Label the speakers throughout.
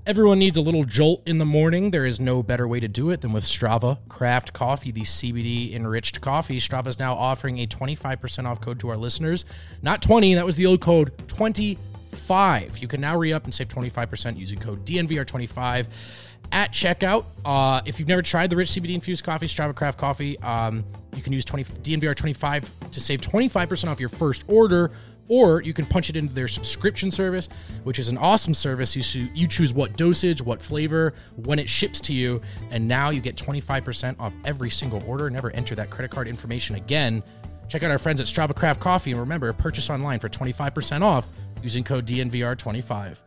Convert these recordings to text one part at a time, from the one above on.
Speaker 1: Everyone needs a little jolt in the morning. There is no better way to do it than with Strava Craft Coffee, the CBD-enriched coffee. Strava is now offering a 25% off code to our listeners. Not 20, that was the old code, 25. You can now re-up and save 25% using code DNVR25 at checkout. If you've never tried the rich CBD-infused coffee, Strava Craft Coffee, you can use DNVR25 to save 25% off your first order. Or you can punch it into their subscription service, which is an awesome service. You choose what dosage, what flavor, when it ships to you, and now you get 25% off every single order. Never enter that credit card information again. Check out our friends at Strava Craft Coffee, and remember, purchase online for 25% off using code DNVR25.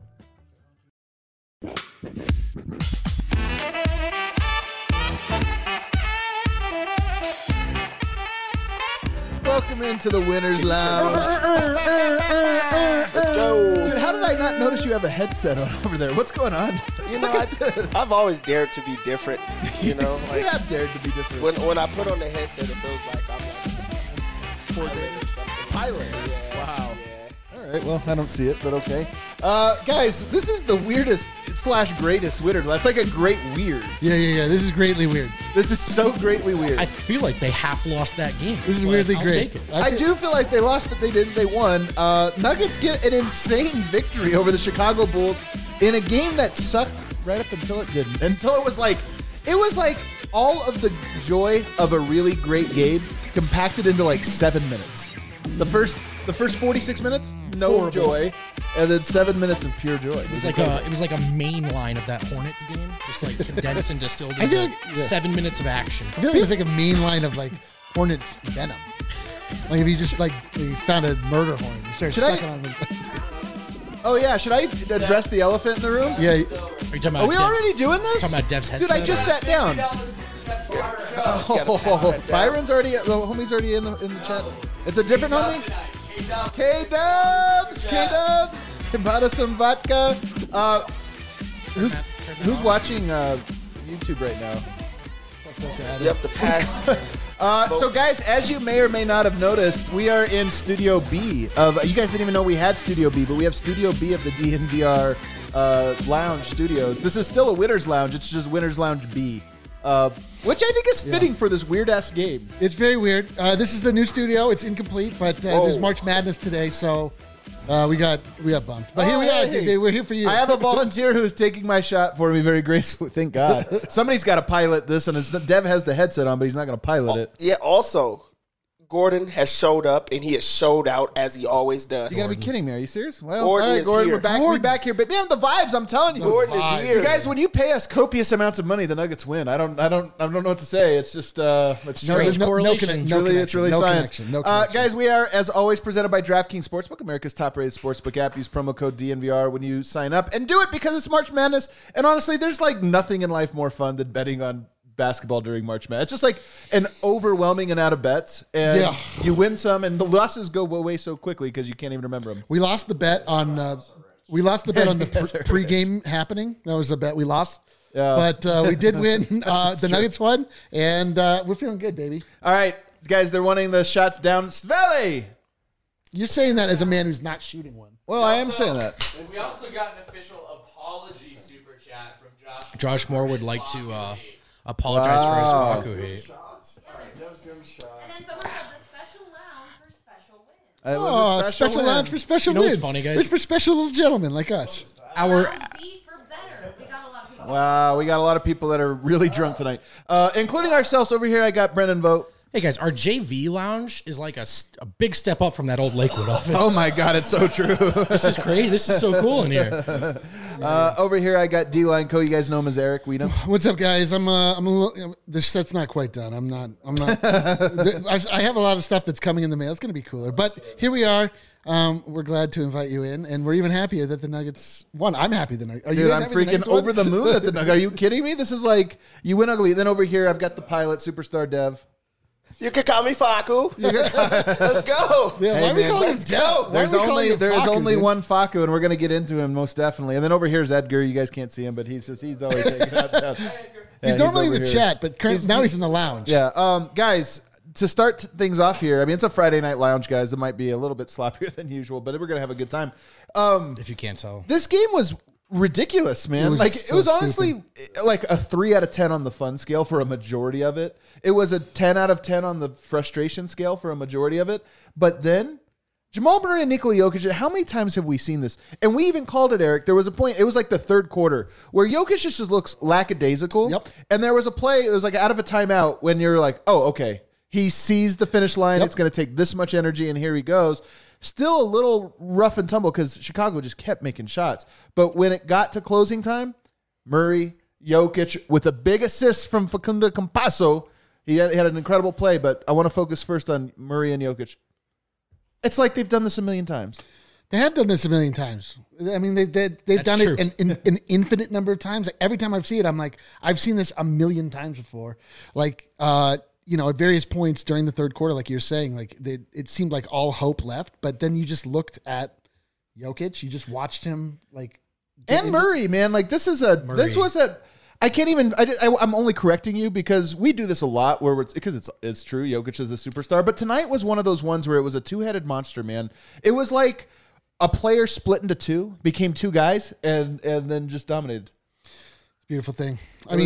Speaker 2: Welcome into the Winner's Lounge.
Speaker 3: Let's go.
Speaker 2: Dude, how did I not notice you have a headset on over there? What's going on?
Speaker 3: You know, I've always dared to be different. You know, like
Speaker 2: you have dared to be different.
Speaker 3: When I put on the headset, it feels like I'm like pilot or something.
Speaker 2: Pilot?
Speaker 3: Yeah.
Speaker 2: Wow. Yeah. All right, well, I don't see it, but okay. Guys, this is the weirdest / greatest winner. That's like a great weird.
Speaker 4: Yeah. This is greatly weird.
Speaker 2: This is so greatly weird.
Speaker 1: I feel like they half lost that game.
Speaker 4: This is weirdly
Speaker 1: I'll
Speaker 4: great.
Speaker 1: take it.
Speaker 2: I do feel like they lost, but they didn't. They won. Nuggets get an insane victory over the Chicago Bulls in a game that sucked right up until it didn't. Until it was like all of the joy of a really great game compacted into like 7 minutes. The first 46 minutes, no
Speaker 1: Horrible.
Speaker 2: joy, and then 7 minutes of pure joy.
Speaker 1: It was like a main line of that Hornets game, just like condensed and distilled
Speaker 4: I
Speaker 1: into
Speaker 4: feel like-
Speaker 1: 7 minutes of action.
Speaker 4: I feel like it's like a main line of like Hornets venom. Like if you just like you found a murder horn, you start
Speaker 2: Should I-
Speaker 4: sucking on them.
Speaker 2: Oh yeah, should I address the elephant in the room?
Speaker 4: Yeah,
Speaker 1: Are you talking about
Speaker 2: Are we
Speaker 1: Dev's-
Speaker 2: already doing this?
Speaker 1: Talking about Dev's
Speaker 2: Dude, I
Speaker 1: headset?
Speaker 2: just sat down. Oh, Byron's already, the homie's already in the chat. It's a different homie? K-Dubs! Bought us some vodka. Who's watching YouTube right now?
Speaker 3: Yep, the pass.
Speaker 2: So guys, as you may or may not have noticed, we are in Studio B of, you guys didn't even know we had Studio B, but we have Studio B of the DNVR Lounge Studios. This is still a Winner's Lounge, it's just Winner's Lounge B, which I think is fitting for this weird-ass game.
Speaker 4: it's very weird. This is the new studio. It's incomplete, but there's March Madness today, so we got bumped. But here we are.
Speaker 2: Hey.
Speaker 4: We're here for you.
Speaker 2: I have a volunteer who is taking my shot for me very gracefully, thank God. Somebody's got to pilot this, and Dev has the headset on, but he's not going to pilot it.
Speaker 3: Yeah, also, Gordon has showed up, and he has showed out as he always does.
Speaker 2: You got to be kidding me. Are you serious? Well,
Speaker 3: Gordon
Speaker 2: all right,
Speaker 3: is
Speaker 2: Gordon,
Speaker 3: here.
Speaker 2: we're back here. But man, the vibes, I'm telling you.
Speaker 3: Gordon is here.
Speaker 2: You guys, when you pay us copious amounts of money, the Nuggets win. I don't know what to say. It's just it's strange.
Speaker 1: correlation.
Speaker 2: It's really science.
Speaker 4: No connection.
Speaker 2: Guys, we are, as always, presented by DraftKings Sportsbook, America's top-rated sportsbook app. Use promo code DNVR when you sign up, and do it because it's March Madness. And honestly, there's like nothing in life more fun than betting on basketball during March Madness. It's just like an overwhelming amount of bets, and you win some, and the losses go away so quickly because you can't even remember them.
Speaker 4: We lost the bet on the pregame happening. That was a bet we lost. But we did win. The Nuggets won, and we're feeling good, baby.
Speaker 2: All right, guys, they're wanting the shots down. Sveli!
Speaker 4: You're saying that as a man who's not shooting one.
Speaker 2: Well, I am saying that.
Speaker 5: We also got an official apology super chat from Josh.
Speaker 1: Josh Moore would like to apologize for his Faku hate.
Speaker 6: And then someone said the special lounge for special wins.
Speaker 2: It was a
Speaker 4: Special
Speaker 2: win.
Speaker 4: lounge for special
Speaker 1: You know what's
Speaker 4: wins.
Speaker 1: funny, guys?
Speaker 4: It's for special little gentlemen like us.
Speaker 1: Our
Speaker 6: Lounge B for better. We got a lot of people.
Speaker 2: Wow, we got a lot of people that are really drunk tonight, including ourselves. Over here, I got Brennan Vogt.
Speaker 1: Hey guys, our JV lounge is like a big step up from that old Lakewood office.
Speaker 2: Oh my God, it's so true.
Speaker 1: This is crazy. This is so cool in here.
Speaker 2: Over here, I got D-Line Co. You guys know him as Eric Weedham.
Speaker 4: What's up, guys? I'm a little. This set's not quite done. I'm not. I have a lot of stuff that's coming in the mail. It's going to be cooler. But here we are. We're glad to invite you in, and we're even happier that the Nuggets won. I'm happy the Nuggets.
Speaker 2: Dude, I'm freaking over the moon at the Nuggets. Are you kidding me? This is like, you win ugly. Then over here, I've got the pilot, Superstar Dev.
Speaker 3: You can call me Faku. Let's go.
Speaker 4: Yeah, why
Speaker 2: Hey,
Speaker 4: are we
Speaker 2: man,
Speaker 4: calling him
Speaker 3: let's
Speaker 4: Dev?
Speaker 3: go.
Speaker 4: Why are
Speaker 2: There
Speaker 4: we calling him
Speaker 2: is
Speaker 4: Faku,
Speaker 2: only
Speaker 4: dude?
Speaker 2: one Faku, and we're going to get into him most definitely. And then over here is Edgar. You guys can't see him, but he's always taking out down.
Speaker 4: He's normally in
Speaker 2: over
Speaker 4: the
Speaker 2: here.
Speaker 4: chat, but now he's in the lounge.
Speaker 2: Yeah, guys, to start things off here, I mean, it's a Friday night lounge, guys. It might be a little bit sloppier than usual, but we're going to have a good time.
Speaker 1: If you can't tell.
Speaker 2: This game was ridiculous, man. It was honestly like a 3 out of 10 on the fun scale for a majority of it. It was a 10 out of 10 on the frustration scale for a majority of it. But then Jamal Murray and Nikola Jokic, how many times have we seen this? And we even called it, Eric. There was a point, it was like the third quarter, where Jokic just looks lackadaisical.
Speaker 4: Yep.
Speaker 2: And there was a play, it was like out of a timeout when you're like, oh, okay. He sees the finish line. It's going to take this much energy, and here he goes. Still a little rough and tumble because Chicago just kept making shots. But when it got to closing time, Murray, Jokic, with a big assist from Facundo Campazzo, he had an incredible play. But I want to focus first on Murray and Jokic. It's like they've done this a million times.
Speaker 4: They have done this a million times. I mean, they've done
Speaker 1: true.
Speaker 4: it an infinite number of times. Like, every time I've seen it, I'm like, I've seen this a million times before. Like, at various points during the third quarter, like you're saying, like it seemed like all hope left. But then you just looked at Jokic. You just watched him, like,
Speaker 2: and Murray, man, like this was a. I can't even. I'm only correcting you because we do this a lot where it's true. Jokic is a superstar, but tonight was one of those ones where it was a two-headed monster, man. It was like a player split into two, became two guys, and then just dominated.
Speaker 4: It's a beautiful thing.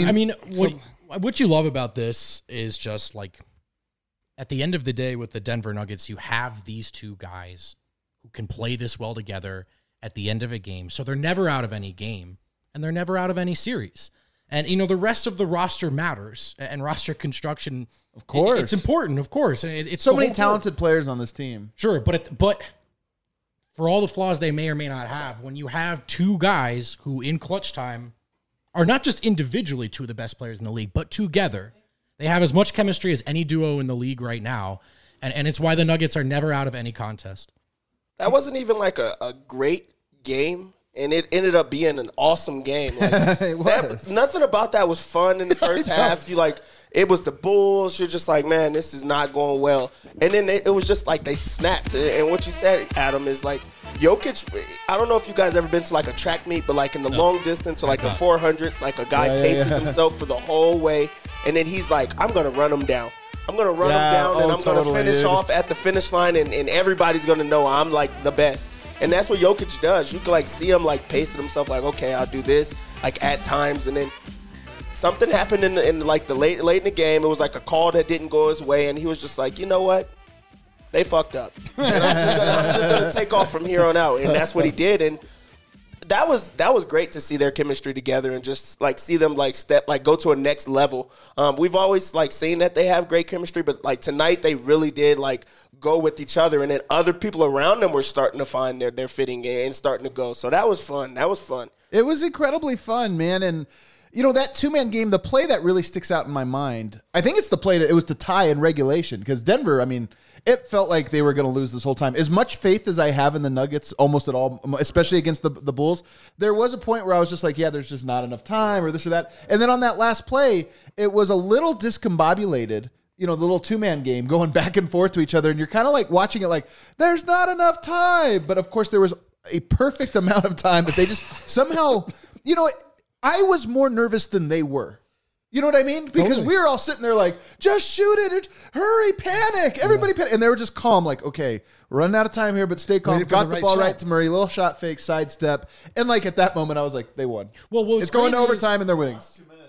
Speaker 1: What you love about this is just like at the end of the day with the Denver Nuggets, you have these two guys who can play this well together at the end of a game. So they're never out of any game and they're never out of any series. And, the rest of the roster matters and roster construction. Of course. It's important, of course. It's
Speaker 2: so many talented players on this team.
Speaker 1: Sure. But for all the flaws they may or may not have, when you have two guys who in clutch time are not just individually two of the best players in the league, but together, they have as much chemistry as any duo in the league right now. And it's why the Nuggets are never out of any contest.
Speaker 3: That wasn't even like a great game, and it ended up being an awesome game. Like,
Speaker 2: it was.
Speaker 3: Nothing about that was fun in the first half. It was the Bulls. You're just like, man, this is not going well. And then it was just like they snapped. And what you said, Adam, is like Jokic. I don't know if you guys ever been to like a track meet, but like in the long distance or like the 400s, like a guy paces himself for the whole way, and then he's like, I'm gonna run him down. I'm going to run him down, and I'm going to finish off at the finish line, and everybody's going to know I'm, like, the best. And that's what Jokic does. You can, like, see him, like, pacing himself, like, okay, I'll do this, like, at times. And then something happened in like, the late in the game. It was, like, a call that didn't go his way, and he was just like, you know what? They fucked up. And I'm just going to take off from here on out. And that's what he did. And that was great to see their chemistry together and just like see them like go to a next level. We've always like seen that they have great chemistry, but like tonight they really did like go with each other, and then other people around them were starting to find their fitting and starting to go. So that was fun.
Speaker 2: It was incredibly fun, man. And that two-man game, the play that really sticks out in my mind, I think it's the play that it was to tie in regulation because Denver, I mean, it felt like they were going to lose this whole time. As much faith as I have in the Nuggets, almost at all, especially against the Bulls, there was a point where I was just like, yeah, there's just not enough time or this or that. And then on that last play, it was a little discombobulated, the little two-man game going back and forth to each other. And you're kind of like watching it like, there's not enough time. But of course, there was a perfect amount of time that they just somehow, I was more nervous than they were. You know what I mean? Because we were all sitting there like, just shoot it. Hurry, panic. Everybody panic. And they were just calm, like, okay, we're running out of time here, but stay calm. Got the ball right to Murray, little shot fake, sidestep. And like at that moment, I was like, they won.
Speaker 1: Well,
Speaker 2: it's going to overtime and they're winning.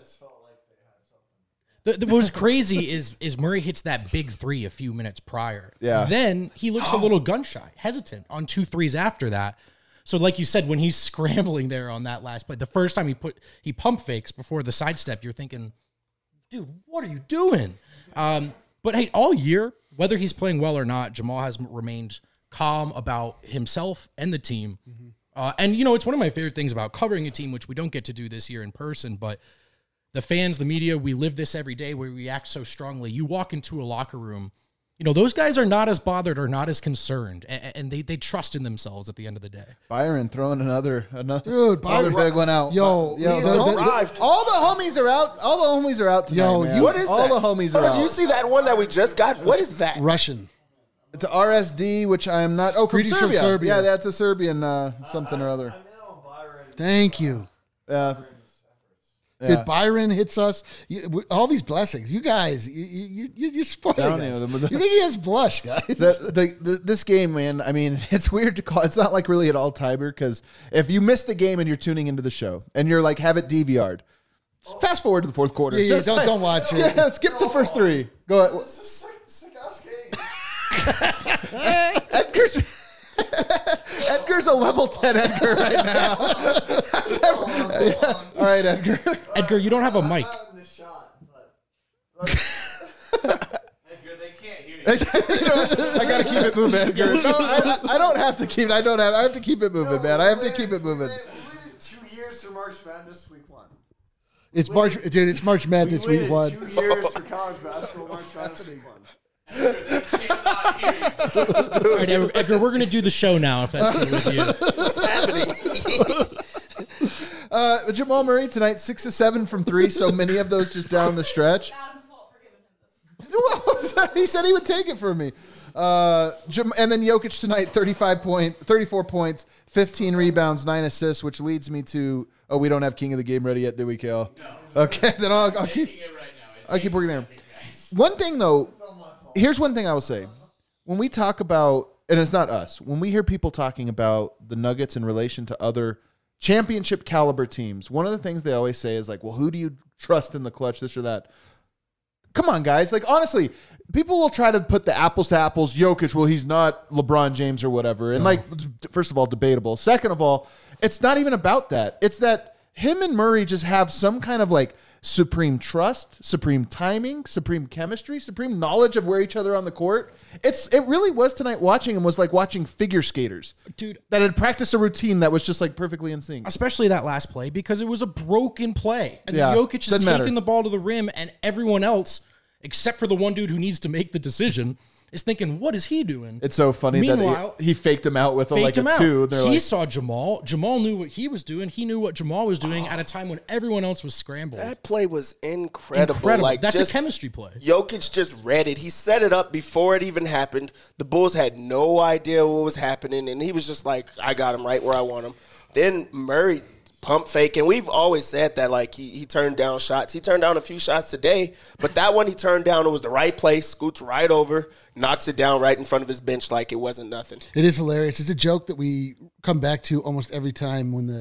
Speaker 1: What was crazy is Murray hits that big three a few minutes prior.
Speaker 2: Yeah.
Speaker 1: Then he looks a little gun shy, hesitant on 2 threes after that. So like you said, when he's scrambling there on that last play, the first time he pump fakes before the sidestep, you're thinking, dude, what are you doing? But hey, all year, whether he's playing well or not, Jamal has remained calm about himself and the team. Mm-hmm. And it's one of my favorite things about covering a team, which we don't get to do this year in person, but the fans, the media, we live this every day. We react so strongly. You walk into a locker room, those guys are not as bothered or not as concerned, and they trust in themselves at the end of the day.
Speaker 2: Byron throwing another
Speaker 4: Dude,
Speaker 2: Byron, big one out.
Speaker 4: Yo,
Speaker 2: all the homies are out. All the homies are out tonight,
Speaker 4: Yo,
Speaker 2: man.
Speaker 3: What is
Speaker 2: all
Speaker 3: that?
Speaker 2: the homies are out.
Speaker 3: Did you see that one that we just got? What is that?
Speaker 4: Russian.
Speaker 2: It's a RSD, which I am not. Oh, from
Speaker 4: Greetings
Speaker 2: Serbia.
Speaker 4: from Serbia.
Speaker 2: Yeah, that's a Serbian something or other.
Speaker 4: Thank you. Dude, Byron hits us. All these blessings. You guys, you're spoiling us. You're making us blush, guys.
Speaker 2: This game, man, I mean, it's weird to call. It's not like really at all timer because if you miss the game and you're tuning into the show and you're like, have it DVR'd, fast forward to the fourth quarter.
Speaker 4: Yeah, don't watch it.
Speaker 2: Yeah, skip the first three. Go ahead.
Speaker 7: It's a sick ass game.
Speaker 2: Edgar's a level 10 Edgar right now. All right, Edgar.
Speaker 1: Edgar, you don't have a mic.
Speaker 7: Not in this shot, but
Speaker 5: Edgar, they can't hear you.
Speaker 2: I gotta keep it moving, Edgar. No, I don't have to keep. I have to keep it moving, man. I have to keep it moving.
Speaker 7: We waited 2 years for March Madness week 1.
Speaker 4: It's March, dude. It's March Madness
Speaker 7: We
Speaker 4: week
Speaker 7: waited
Speaker 4: 1.
Speaker 7: 2 years for college basketball March Madness week 1.
Speaker 5: Edgar, they cannot hear you.
Speaker 1: All right, Edgar, we're going to do the show now if that's good with you.
Speaker 3: What's happening?
Speaker 2: Jamal Murray tonight, 6 of 7 from 3. So many of those just down the stretch.
Speaker 6: Adam's fault for giving him this.
Speaker 2: He said he would take it from me. And then Jokic tonight, 34 points, 15 rebounds, 9 assists, which leads me to, we don't have King of the Game ready yet, do we, Kale? No. Okay, then I'll keep
Speaker 5: It right now.
Speaker 2: I'll keep working there. One thing, though, here's one thing I will say. When we talk about, and it's not us, when we hear people talking about the Nuggets in relation to other championship caliber teams, one of the things they always say is like, well, who do you trust in the clutch, this or that? Come on, guys. Like, honestly, people will try to put the apples to apples. Jokic, well, he's not LeBron James or whatever. And, like, first of all, debatable. Second of all, it's not even about that. It's that him and Murray just have some kind of, like, supreme trust, supreme timing, supreme chemistry, supreme knowledge of where each other on the court. It really was tonight watching him was like watching figure skaters.
Speaker 1: Dude,
Speaker 2: that had practiced a routine that was just, like, perfectly in sync.
Speaker 1: especially that last play because it was a broken play. And
Speaker 2: Yeah,
Speaker 1: Jokic is
Speaker 2: doesn't
Speaker 1: taking
Speaker 2: matter.
Speaker 1: the ball to the rim and everyone else, except for the one dude who needs to make the decision, is thinking, what is he doing?
Speaker 2: It's so funny
Speaker 1: Meanwhile,
Speaker 2: that he faked him out with like
Speaker 1: faked him
Speaker 2: a
Speaker 1: out.
Speaker 2: 2. They're
Speaker 1: He
Speaker 2: like,
Speaker 1: saw Jamal. Jamal knew what he was doing. He knew what Jamal was doing at a time when everyone else was scrambled.
Speaker 3: That play was incredible.
Speaker 1: Incredible.
Speaker 3: Like,
Speaker 1: That's
Speaker 3: just,
Speaker 1: a chemistry play.
Speaker 3: Jokic just read it. He set it up before it even happened. The Bulls had no idea what was happening, and he was just like, I got him right where I want him. Then Murray pump fake, and we've always said that, like, he turned down shots. He turned down a few shots today, but that one he turned down, it was the right place, scoots right over, knocks it down right in front of his bench like it wasn't nothing.
Speaker 4: It is hilarious. It's a joke that we come back to almost every time when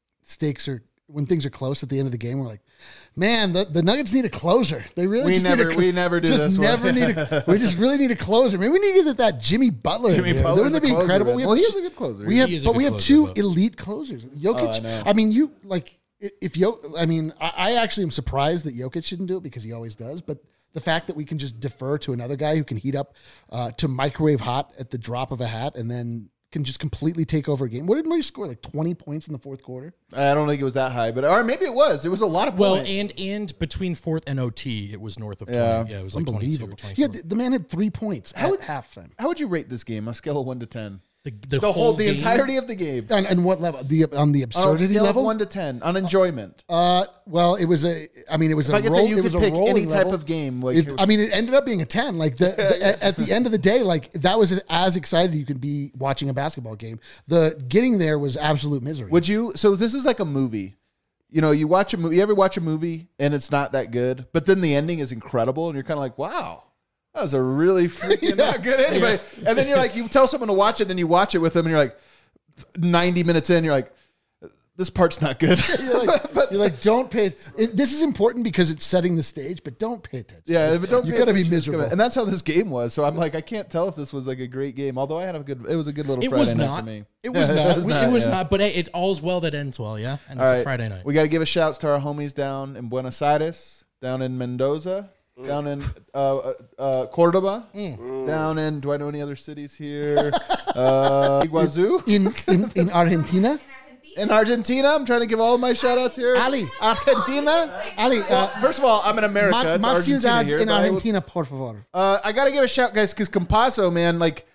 Speaker 4: when things are close at the end of the game. We're like, man, the Nuggets need a closer. They really
Speaker 2: we never do this one.
Speaker 4: We just really need a closer. Maybe we need to get that Jimmy Butler.
Speaker 2: Jimmy
Speaker 4: in there.
Speaker 2: Butler's
Speaker 4: Wouldn't that be
Speaker 2: a closer,
Speaker 4: incredible?
Speaker 2: man. Well, he is a good closer.
Speaker 4: We have,
Speaker 1: He is a
Speaker 4: but
Speaker 1: good
Speaker 4: we have
Speaker 1: closer,
Speaker 4: two
Speaker 1: but-
Speaker 4: elite closers. Jokic.
Speaker 2: I know.
Speaker 4: I mean, you like if I actually am surprised that Jokic shouldn't do it because he always does. But the fact that we can just defer to another guy who can heat up to microwave hot at the drop of a hat and then can just completely take over a game. What did Murray score? Like 20 points in the fourth quarter?
Speaker 2: I don't think it was that high, but or maybe it was. It was a lot of
Speaker 1: Well,
Speaker 2: points.
Speaker 1: and between fourth and OT, it was north of 20.
Speaker 2: Yeah.
Speaker 1: Yeah, it was like 22 or
Speaker 4: Unbelievable.
Speaker 1: 24.
Speaker 4: Yeah, the man had 3 points at halftime.
Speaker 2: How would you rate this game on a scale of 1 to 10?
Speaker 1: The
Speaker 2: The
Speaker 1: game-
Speaker 2: entirety of the game.
Speaker 4: And what level? On the
Speaker 2: On a
Speaker 4: absurdity
Speaker 2: scale
Speaker 4: level?
Speaker 2: of 1 to 10 on enjoyment.
Speaker 4: Well, it was a. I mean, it was
Speaker 2: If
Speaker 4: a
Speaker 2: I could
Speaker 4: roll.
Speaker 2: say you
Speaker 4: it
Speaker 2: could
Speaker 4: was a
Speaker 2: pick
Speaker 4: rolling
Speaker 2: any type
Speaker 4: level.
Speaker 2: of game, like you're-
Speaker 4: It ended up being a 10. Like at the end of the day, like that was as excited you could be watching a basketball game. The getting there was absolute misery.
Speaker 2: Would you? So this is like a movie. You know, you watch a movie. You ever watch a movie and it's not that good, but then the ending is incredible, and you're kind of like, wow. That was a really freaking not good anyway. And then you're like, you tell someone to watch it, then you watch it with them, and you're like, 90 minutes in, you're like, this part's not good.
Speaker 4: You're like, don't pay. This is important because it's setting the stage, but don't pay attention.
Speaker 2: Yeah, but don't.
Speaker 4: You
Speaker 2: pay
Speaker 4: got to be
Speaker 2: attention. It's
Speaker 4: miserable.
Speaker 2: gonna- and that's how this game was. So I'm like, I can't tell if this was like a great game. Although I had it was a good little
Speaker 1: It
Speaker 2: Friday
Speaker 1: was
Speaker 2: night
Speaker 1: not.
Speaker 2: for me.
Speaker 1: It was
Speaker 2: Yeah,
Speaker 1: not. It was
Speaker 2: yeah.
Speaker 1: not. But hey, it's all's well that ends well, yeah? And
Speaker 2: All
Speaker 1: it's
Speaker 2: right.
Speaker 1: a Friday night.
Speaker 2: We got to give a shout to our homies down in Buenos Aires, down in Mendoza, down in Cordoba, down in. Do I know any other cities here? Iguazu
Speaker 4: In Argentina,
Speaker 2: in Argentina. I'm trying to give all my shout outs here.
Speaker 4: Ali.
Speaker 2: Argentina.
Speaker 4: Ali,
Speaker 2: First of all, I'm in America. It's
Speaker 4: más
Speaker 2: Argentina
Speaker 4: ciudades
Speaker 2: here,
Speaker 4: in
Speaker 2: but I will-
Speaker 4: Argentina, por favor.
Speaker 2: I got to give a shout, guys, because Campazzo, man, like,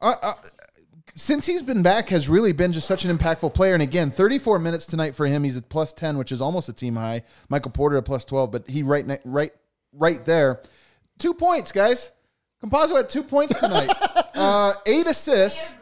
Speaker 2: since he's been back, has really been just such an impactful player. And again, 34 minutes tonight for him. He's at plus 10, which is almost a team high. Michael Porter at plus 12, but he right there. 2 points, guys. Campazzo had 2 points tonight. 8 assists.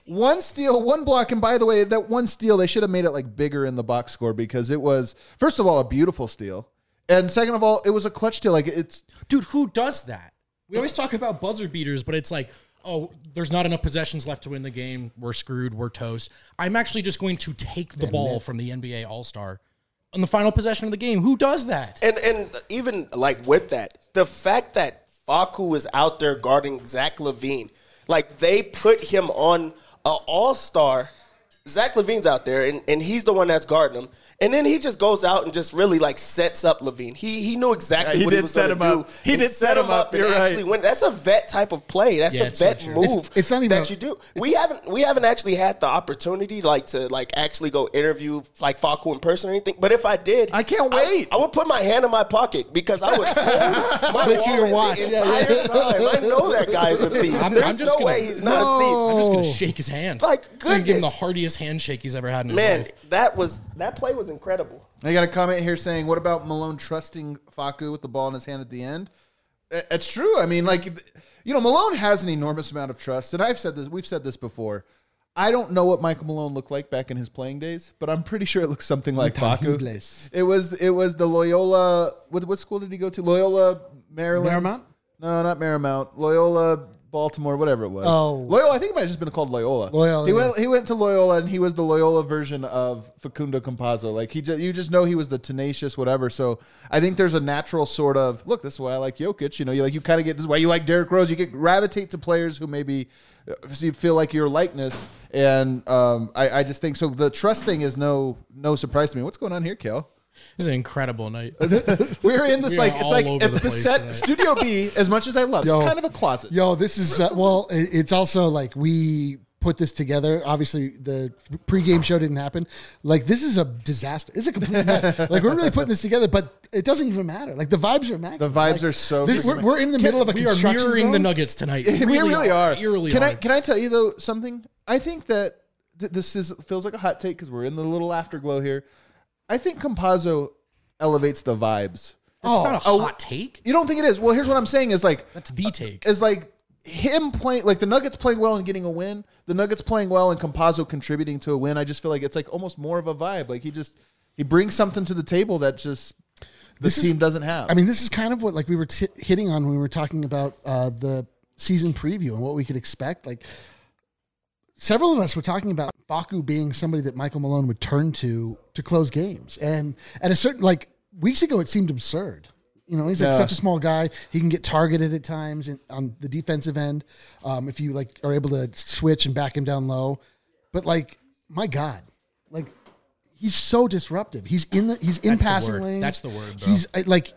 Speaker 2: 1 steal, 1 block, and by the way, that 1 steal, they should have made it like bigger in the box score because it was, first of all, a beautiful steal. And second of all, it was a clutch steal. Like it's,
Speaker 1: Dude, who does that? We always talk about buzzer beaters, but it's like, oh, there's not enough possessions left to win the game. We're screwed. We're toast. I'm actually just going to take the ball from the NBA All-Star on the final possession of the game. Who does that?
Speaker 3: And even like with that, the fact that Facu is out there guarding Zach LaVine, like they put him on an all-star. Zach LaVine's out there, and he's the one that's guarding him. And then he just goes out and just really like sets up LaVine. He knew exactly what he was going to do.
Speaker 2: He did set him up.
Speaker 3: And
Speaker 2: You're
Speaker 3: actually
Speaker 2: right.
Speaker 3: win. That's a vet type of play. That's
Speaker 1: Yeah,
Speaker 3: a
Speaker 1: it's so
Speaker 3: vet
Speaker 1: true.
Speaker 3: move.
Speaker 4: It's not even
Speaker 3: that you do. We haven't actually had the opportunity to actually go interview like Facu in person or anything. But if I did,
Speaker 2: I can't wait.
Speaker 3: I would put my hand in my pocket because I would hold my
Speaker 4: Put your
Speaker 3: wallet
Speaker 4: watch.
Speaker 3: the
Speaker 4: Yeah,
Speaker 3: entire
Speaker 4: yeah.
Speaker 3: time. I know that guy's a thief.
Speaker 1: I'm
Speaker 3: There's
Speaker 1: just
Speaker 3: no
Speaker 1: gonna-
Speaker 3: way he's not a thief.
Speaker 1: I'm just going to shake his hand.
Speaker 3: Like,
Speaker 1: I'm gonna give him the
Speaker 3: goodness.
Speaker 1: hardiest handshake he's ever had in his
Speaker 3: Man,
Speaker 1: life.
Speaker 3: that play was incredible.
Speaker 2: I got a comment here saying, what about Malone trusting Facu with the ball in his hand at the end? It's true. I mean, Malone has an enormous amount of trust, and we've said this before. I don't know what Michael Malone looked like back in his playing days, but I'm pretty sure it looks something like Facu.
Speaker 4: Intangibles.
Speaker 2: It was the Loyola. What school did he go to? Loyola, Maryland.
Speaker 4: Marymount?
Speaker 2: No, not Marymount. Loyola, Baltimore, whatever it was.
Speaker 4: Oh.
Speaker 2: Loyola. I think it might have just been called Loyola.
Speaker 4: Loyola,
Speaker 2: He went to Loyola, and he was the Loyola version of Facundo Campazzo. Like you just know he was the tenacious whatever. So I think there's a natural sort of look. This is why I like Jokic. You kind of get this is why you like Derrick Rose. You gravitate to players who maybe you feel like your likeness. And I just think so. The trust thing is no surprise to me. What's going on here, Kel?
Speaker 1: It was an incredible night.
Speaker 2: We're in this
Speaker 1: We are all over
Speaker 2: it's
Speaker 1: the
Speaker 2: the
Speaker 1: place
Speaker 2: set
Speaker 1: tonight.
Speaker 2: Studio B. As much as I love,
Speaker 4: Yo.
Speaker 2: it's kind of a closet.
Speaker 4: Yo, this is it's also like we put this together. Obviously, the pregame show didn't happen. Like this is a disaster. It's a complete mess. Like we're really putting this together, but it doesn't even matter. Like the vibes are immaculate.
Speaker 2: The vibes
Speaker 4: Like,
Speaker 2: are so.
Speaker 4: we're in the middle of a
Speaker 1: We are
Speaker 4: construction
Speaker 1: mirroring
Speaker 4: zone.
Speaker 1: the Nuggets tonight.
Speaker 2: we really are.
Speaker 1: We really
Speaker 2: Can
Speaker 1: are.
Speaker 2: can I tell you though something? I think that this feels like a hot take because we're in the little afterglow here. I think Campazzo elevates the vibes.
Speaker 1: It's not a hot take.
Speaker 2: You don't think it is? Well, here's what I'm saying is like
Speaker 1: That's the take.
Speaker 2: is like him playing like the Nuggets playing well and getting a win. The Nuggets playing well and Campazzo contributing to a win. I just feel like it's like almost more of a vibe. Like he brings something to the table that just this team doesn't have.
Speaker 4: I mean, this is kind of what like we were hitting on when we were talking about the season preview and what we could expect. Like several of us were talking about Facu being somebody that Michael Malone would turn to close games, and at a certain like weeks ago, it seemed absurd. You know, he's like
Speaker 2: Yeah.
Speaker 4: such a small guy. He can get targeted at times on the defensive end if you like are able to switch and back him down low. But like, my God, like he's so disruptive. He's in
Speaker 1: the
Speaker 4: passing
Speaker 1: word.
Speaker 4: lanes.
Speaker 1: That's the word, bro.
Speaker 4: He's like.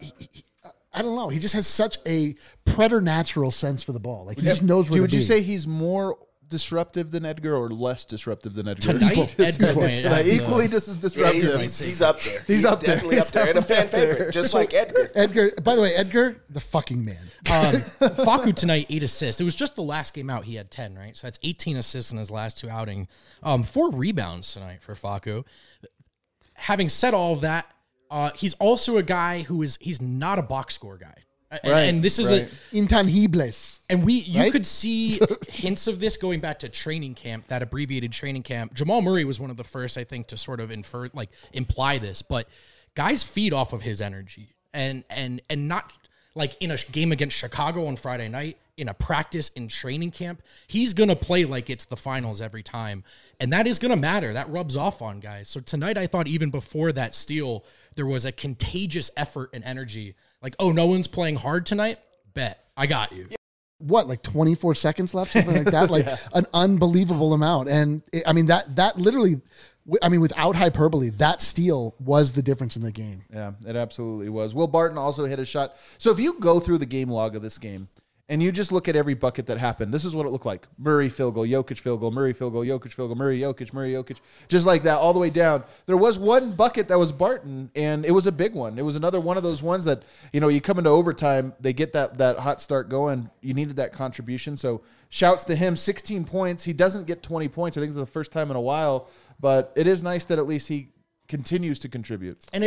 Speaker 4: I don't know. He just has such a preternatural sense for the ball. Like he just knows where to
Speaker 2: Would
Speaker 4: be.
Speaker 2: you say he's more disruptive than Edgar or less disruptive than Edgar?
Speaker 1: Tonight, Edgar might have the-
Speaker 2: equally
Speaker 3: Yeah,
Speaker 2: disruptive.
Speaker 3: he's up there.
Speaker 2: He's up there.
Speaker 3: Definitely
Speaker 2: He's
Speaker 3: up there. And a fan
Speaker 2: definitely up there.
Speaker 3: favorite, just like Edgar.
Speaker 4: Edgar? By the way, Edgar, the fucking man.
Speaker 1: Facu tonight, 8 assists. It was just the last game out. He had 10, right? So that's 18 assists in his last 2 outings. 4 rebounds tonight for Facu. Having said all of that, he's also a guy he's not a box score guy. And this is
Speaker 2: right.
Speaker 4: Intangibles.
Speaker 1: And you
Speaker 4: Right?
Speaker 1: could see hints of this going back to training camp, that abbreviated training camp. Jamal Murray was one of the first, I think, to sort of imply this. But guys feed off of his energy, and not like in a game against Chicago on Friday night, in a practice in training camp. He's gonna play like it's the finals every time, and that is gonna matter. That rubs off on guys. So tonight, I thought even before that steal, there was a contagious effort and energy. Like, oh, no one's playing hard tonight? Bet. I got you.
Speaker 4: What, like 24 seconds left, something like that? Like an unbelievable amount. And I mean, that literally, I mean, without hyperbole, that steal was the difference in the game.
Speaker 2: Yeah, it absolutely was. Will Barton also hit a shot. So if you go through the game log of this game and you just look at every bucket that happened, this is what it looked like. Murray field goal, Jokic field goal, Murray field goal, Jokic field goal, Murray, Jokic, just like that all the way down. There was one bucket that was Barton, and it was a big one. It was another one of those ones that, you come into overtime, they get that hot start going. You needed that contribution. So shouts to him, 16 points. He doesn't get 20 points. I think it's the first time in a while, but it is nice that at least he continues to contribute.
Speaker 1: And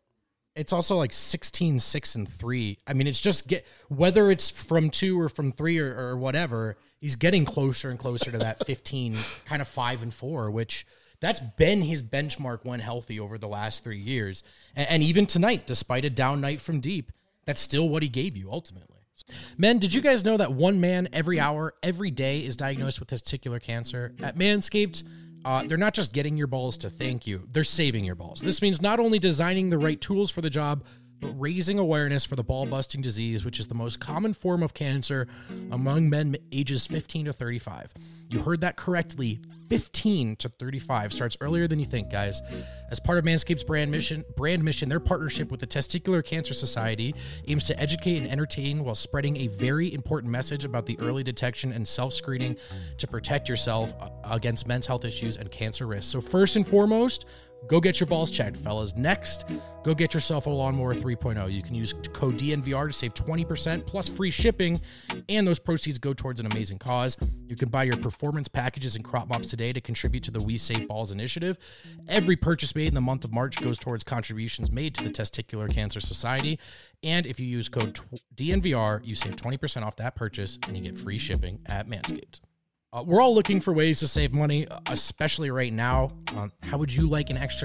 Speaker 1: it's also like 16, 6, and 3. I mean, it's just whether it's from 2 or from 3 or whatever, he's getting closer and closer to that 15, kind of 5-4, which that's been his benchmark when healthy over the last 3 years. And even tonight, despite a down night from deep, that's still what he gave you ultimately. Men, did you guys know that one man every hour, every day is diagnosed with testicular cancer? At Manscaped, they're not just getting your balls to thank you, they're saving your balls. This means not only designing the right tools for the job, but raising awareness for the ball-busting disease, which is the most common form of cancer among men ages 15 to 35. You heard that correctly. 15 to 35 starts earlier than you think, guys. As part of Manscaped's brand mission, their partnership with the Testicular Cancer Society aims to educate and entertain while spreading a very important message about the early detection and self-screening to protect yourself against men's health issues and cancer risks. So first and foremost, go get your balls checked, fellas. Next, go get yourself a Lawnmower 3.0. You can use code DNVR to save 20% plus free shipping, and those proceeds go towards an amazing cause. You can buy your performance packages and crop mops today to contribute to the We Save Balls initiative. Every purchase made in the month of March goes towards contributions made to the Testicular Cancer Society. And if you use code DNVR, you save 20% off that purchase, and you get free shipping at Manscaped. We're all looking for ways to save money, especially right now. How would you like an extra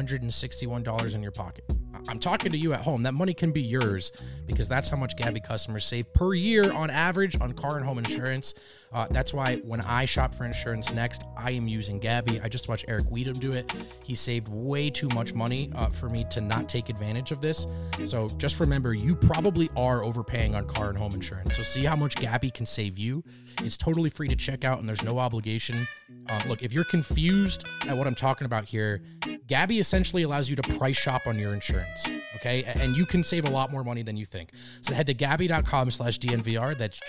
Speaker 1: $961 in your pocket? I'm talking to you at home. That money can be yours because that's how much Gabi customers save per year on average on car and home insurance. That's why when I shop for insurance next, I am using Gabi. I just watched Eric Weedham do it. He saved way too much money for me to not take advantage of this. So just remember, you probably are overpaying on car and home insurance. So see how much Gabi can save you. It's totally free to check out and there's no obligation. Look, if you're confused at what I'm talking about here, Gabi essentially allows you to price shop on your insurance, okay? And you can save a lot more money than you think. So head to Gabi.com/DNVR. That's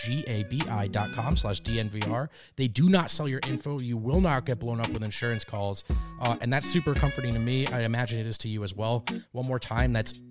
Speaker 1: GABI.com/DNVR. They do not sell your info. You will not get blown up with insurance calls. And that's super comforting to me. I imagine it is to you as well. One more time, that's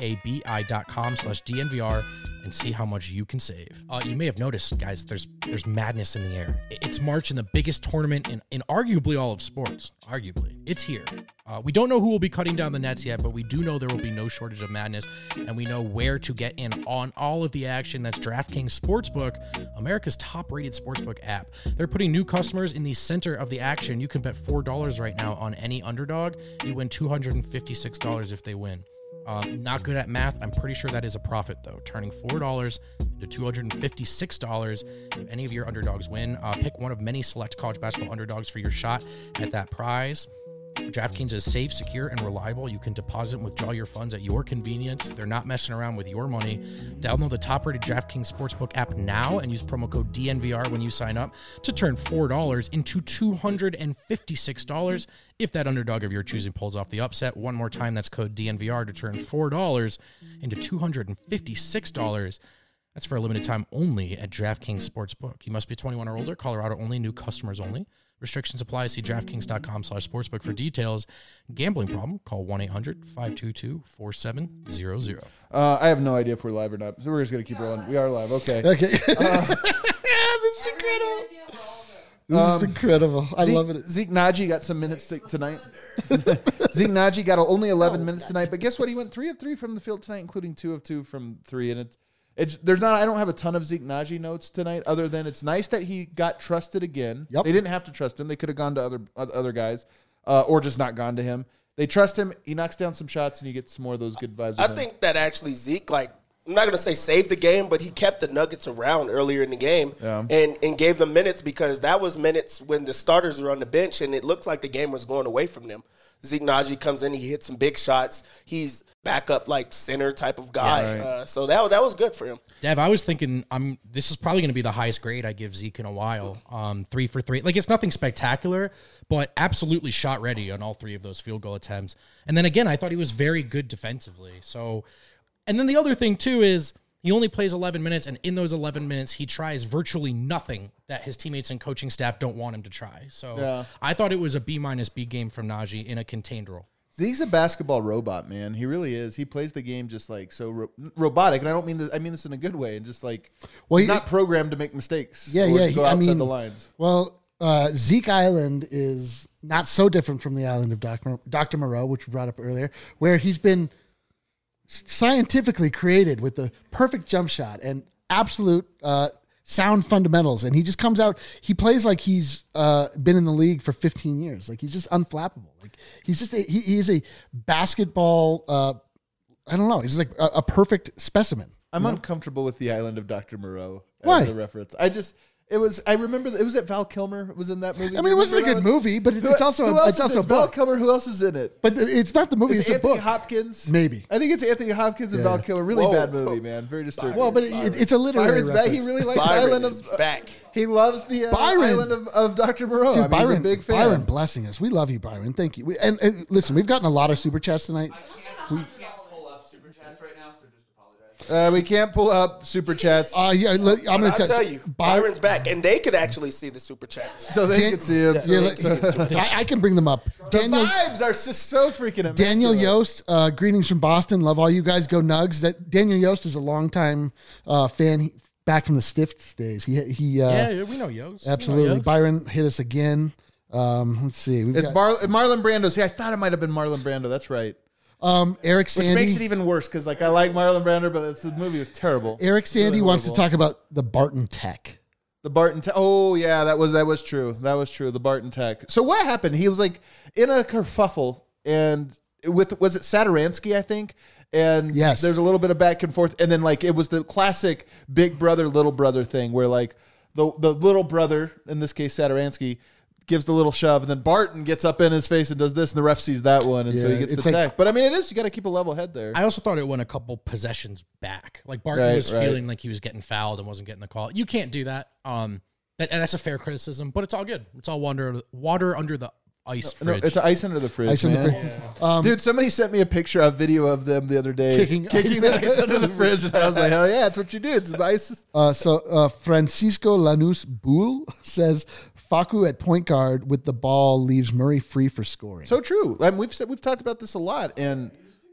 Speaker 1: GABI.com/DNVR and see how much you can save. You may have noticed, guys, there's madness in the air. It's March and the biggest tournament in arguably all of sports. Arguably. It's here. We don't know who will be cutting down the nets yet, but we do know there will be no shortage of madness, and we know where to get in on all of the action. That's DraftKings Sportsbook, America's top-rated sportsbook app. They're putting new customers in the center of the action. You can bet $4 right now on any underdog. You win $256 if they win. Not good at math. I'm pretty sure that is a profit, though. Turning $4 into $256 if any of your underdogs win. Pick one of many select college basketball underdogs for your shot at that prize. DraftKings is safe, secure, and reliable. You can deposit and withdraw your funds at your convenience. They're not messing around with your money. Download the top-rated DraftKings Sportsbook app now and use promo code DNVR when you sign up to turn $4 into $256 if that underdog of your choosing pulls off the upset. One more time, that's code DNVR to turn $4 into $256. That's for a limited time only at DraftKings Sportsbook. You must be 21 or older, Colorado only, new customers only. Restrictions apply. See DraftKings.com/sportsbook for details. Gambling problem? Call 1-800-522-4700.
Speaker 2: I have no idea if we're live or not, so we're just going to keep rolling. We are live. Okay.
Speaker 4: Okay. This is incredible. This is incredible. I love it.
Speaker 2: Zeke Naji got some minutes tonight. Zeke Naji got only 11 minutes tonight, but guess what? He went 3 of 3 from the field tonight, including 2 of 2 from 3, and there's not. I don't have a ton of Zeke Naji notes tonight, other than it's nice that he got trusted again.
Speaker 4: Yep.
Speaker 2: They didn't have to trust him; they could have gone to other guys, or just not gone to him. They trust him. He knocks down some shots, and you get some more of those good vibes.
Speaker 3: I think that actually Zeke, I'm not going to say saved the game, but he kept the Nuggets around earlier in the game and gave them minutes because that was minutes when the starters were on the bench, and it looked like the game was going away from them. Zeke Naji comes in, he hits some big shots. He's backup center type of guy.
Speaker 2: Yeah, right.
Speaker 3: So that was good for him.
Speaker 1: Dev, I was thinking this is probably going to be the highest grade I give Zeke in a while. 3 for 3. It's nothing spectacular, but absolutely shot ready on all 3 of those field goal attempts. And then again, I thought he was very good defensively. So, and then the other thing too is he only plays 11 minutes, and in those 11 minutes, he tries virtually nothing that his teammates and coaching staff don't want him to try. So I thought it was a B- B game from Naji in a contained role.
Speaker 2: Zeke's a basketball robot, man. He really is. He plays the game just so robotic, and I don't mean this. I mean this in a good way, and just he's not programmed to make mistakes. Go outside the lines.
Speaker 4: Well, Zeke Island is not so different from the island of Dr. Moreau, which we brought up earlier, where he's been scientifically created with the perfect jump shot and absolute sound fundamentals, and he just comes out. He plays like he's been in the league for 15 years. Like he's just unflappable. Like he's just he is a basketball. I don't know. He's like a perfect specimen.
Speaker 2: I'm uncomfortable with the Island of Dr. Moreau as
Speaker 4: Why?
Speaker 2: a reference. I remember it was at Val Kilmer was in that movie.
Speaker 4: I mean, it wasn't a good movie, but it's also
Speaker 2: who else
Speaker 4: it's also a
Speaker 2: is Val
Speaker 4: book.
Speaker 2: Kilmer. Who else is in it?
Speaker 4: But it's not the movie;
Speaker 2: Is
Speaker 4: it's
Speaker 2: it
Speaker 4: a
Speaker 2: Anthony
Speaker 4: book.
Speaker 2: Hopkins?
Speaker 4: Maybe.
Speaker 2: I think it's Anthony Hopkins and
Speaker 4: Yeah.
Speaker 2: Val Kilmer. Really
Speaker 3: Whoa.
Speaker 2: bad movie, man. Very disturbing.
Speaker 4: Well, but it's a literary
Speaker 2: Byron's back.
Speaker 4: reference.
Speaker 2: He really likes the
Speaker 3: Byron
Speaker 2: Island
Speaker 3: is
Speaker 2: of
Speaker 3: back.
Speaker 2: He loves the
Speaker 4: Byron.
Speaker 2: Island of Dr. Moreau.
Speaker 4: Dude,
Speaker 2: I mean, he's a big fan.
Speaker 4: Byron blessing us. We love you, Byron. Thank you. And listen, we've gotten a lot of super chats tonight.
Speaker 5: I can't pull up super chats right now, so just apologize.
Speaker 2: We can't pull up super chats,
Speaker 4: Yeah, I'm going
Speaker 3: I'll
Speaker 4: to
Speaker 3: tell you, Byron's back, and they could actually see the super chats.
Speaker 2: so they can see him.
Speaker 4: I can bring them up.
Speaker 2: The vibes are just so freaking amazing.
Speaker 4: Daniel Yost, greetings from Boston. Love all you guys. Go Nugs. That Daniel Yost is a longtime fan, back from the Stifts days. He
Speaker 1: Yeah, we know Yost.
Speaker 4: absolutely.
Speaker 1: We know Yost.
Speaker 4: Byron hit us again. Let's see. We've
Speaker 2: It's
Speaker 4: got
Speaker 2: Marlon Brando. See, I thought it might have been Marlon Brando. That's right.
Speaker 4: Eric
Speaker 2: Which
Speaker 4: Sandy.
Speaker 2: makes it even worse because, like, I like Marlon Brando, but the movie was terrible.
Speaker 4: Eric Sandy
Speaker 2: Really
Speaker 4: wants to
Speaker 2: horrible.
Speaker 4: talk about the Barton Tech.
Speaker 2: The Barton Tech. Oh yeah, that was true. That was true. The Barton Tech. So what happened? He was like in a kerfuffle, and was it Saturansky, I think? And
Speaker 4: Yes.
Speaker 2: there's a little bit of back and forth, and then like it was the classic big brother little brother thing where like the little brother, in this case Saturansky, gives the little shove, and then Barton gets up in his face and does this, and the ref sees that one, and so
Speaker 4: Yeah,
Speaker 2: he gets
Speaker 4: it's
Speaker 2: the
Speaker 4: like-
Speaker 2: tech. But I mean, you got to keep a level head there.
Speaker 1: I also thought it went a couple possessions back. Like Barton
Speaker 2: Right,
Speaker 1: was
Speaker 2: right.
Speaker 1: feeling like he was getting fouled and wasn't getting the call. You can't do that. And that's a fair criticism, but it's all good. It's all water under the ice
Speaker 2: No,
Speaker 1: fridge.
Speaker 2: it's ice under the fridge.
Speaker 4: Ice in the
Speaker 2: man.
Speaker 4: fridge.
Speaker 2: Dude, somebody sent me a picture, a video of them the other day
Speaker 4: Kicking
Speaker 2: the ice under the fridge, and I was like, hell yeah, that's what you do. It's the ice.
Speaker 4: So Francisco Lanús Bull says Facu at point guard with the ball leaves Murray free for scoring.
Speaker 2: So true. I mean, we've talked about this a lot, and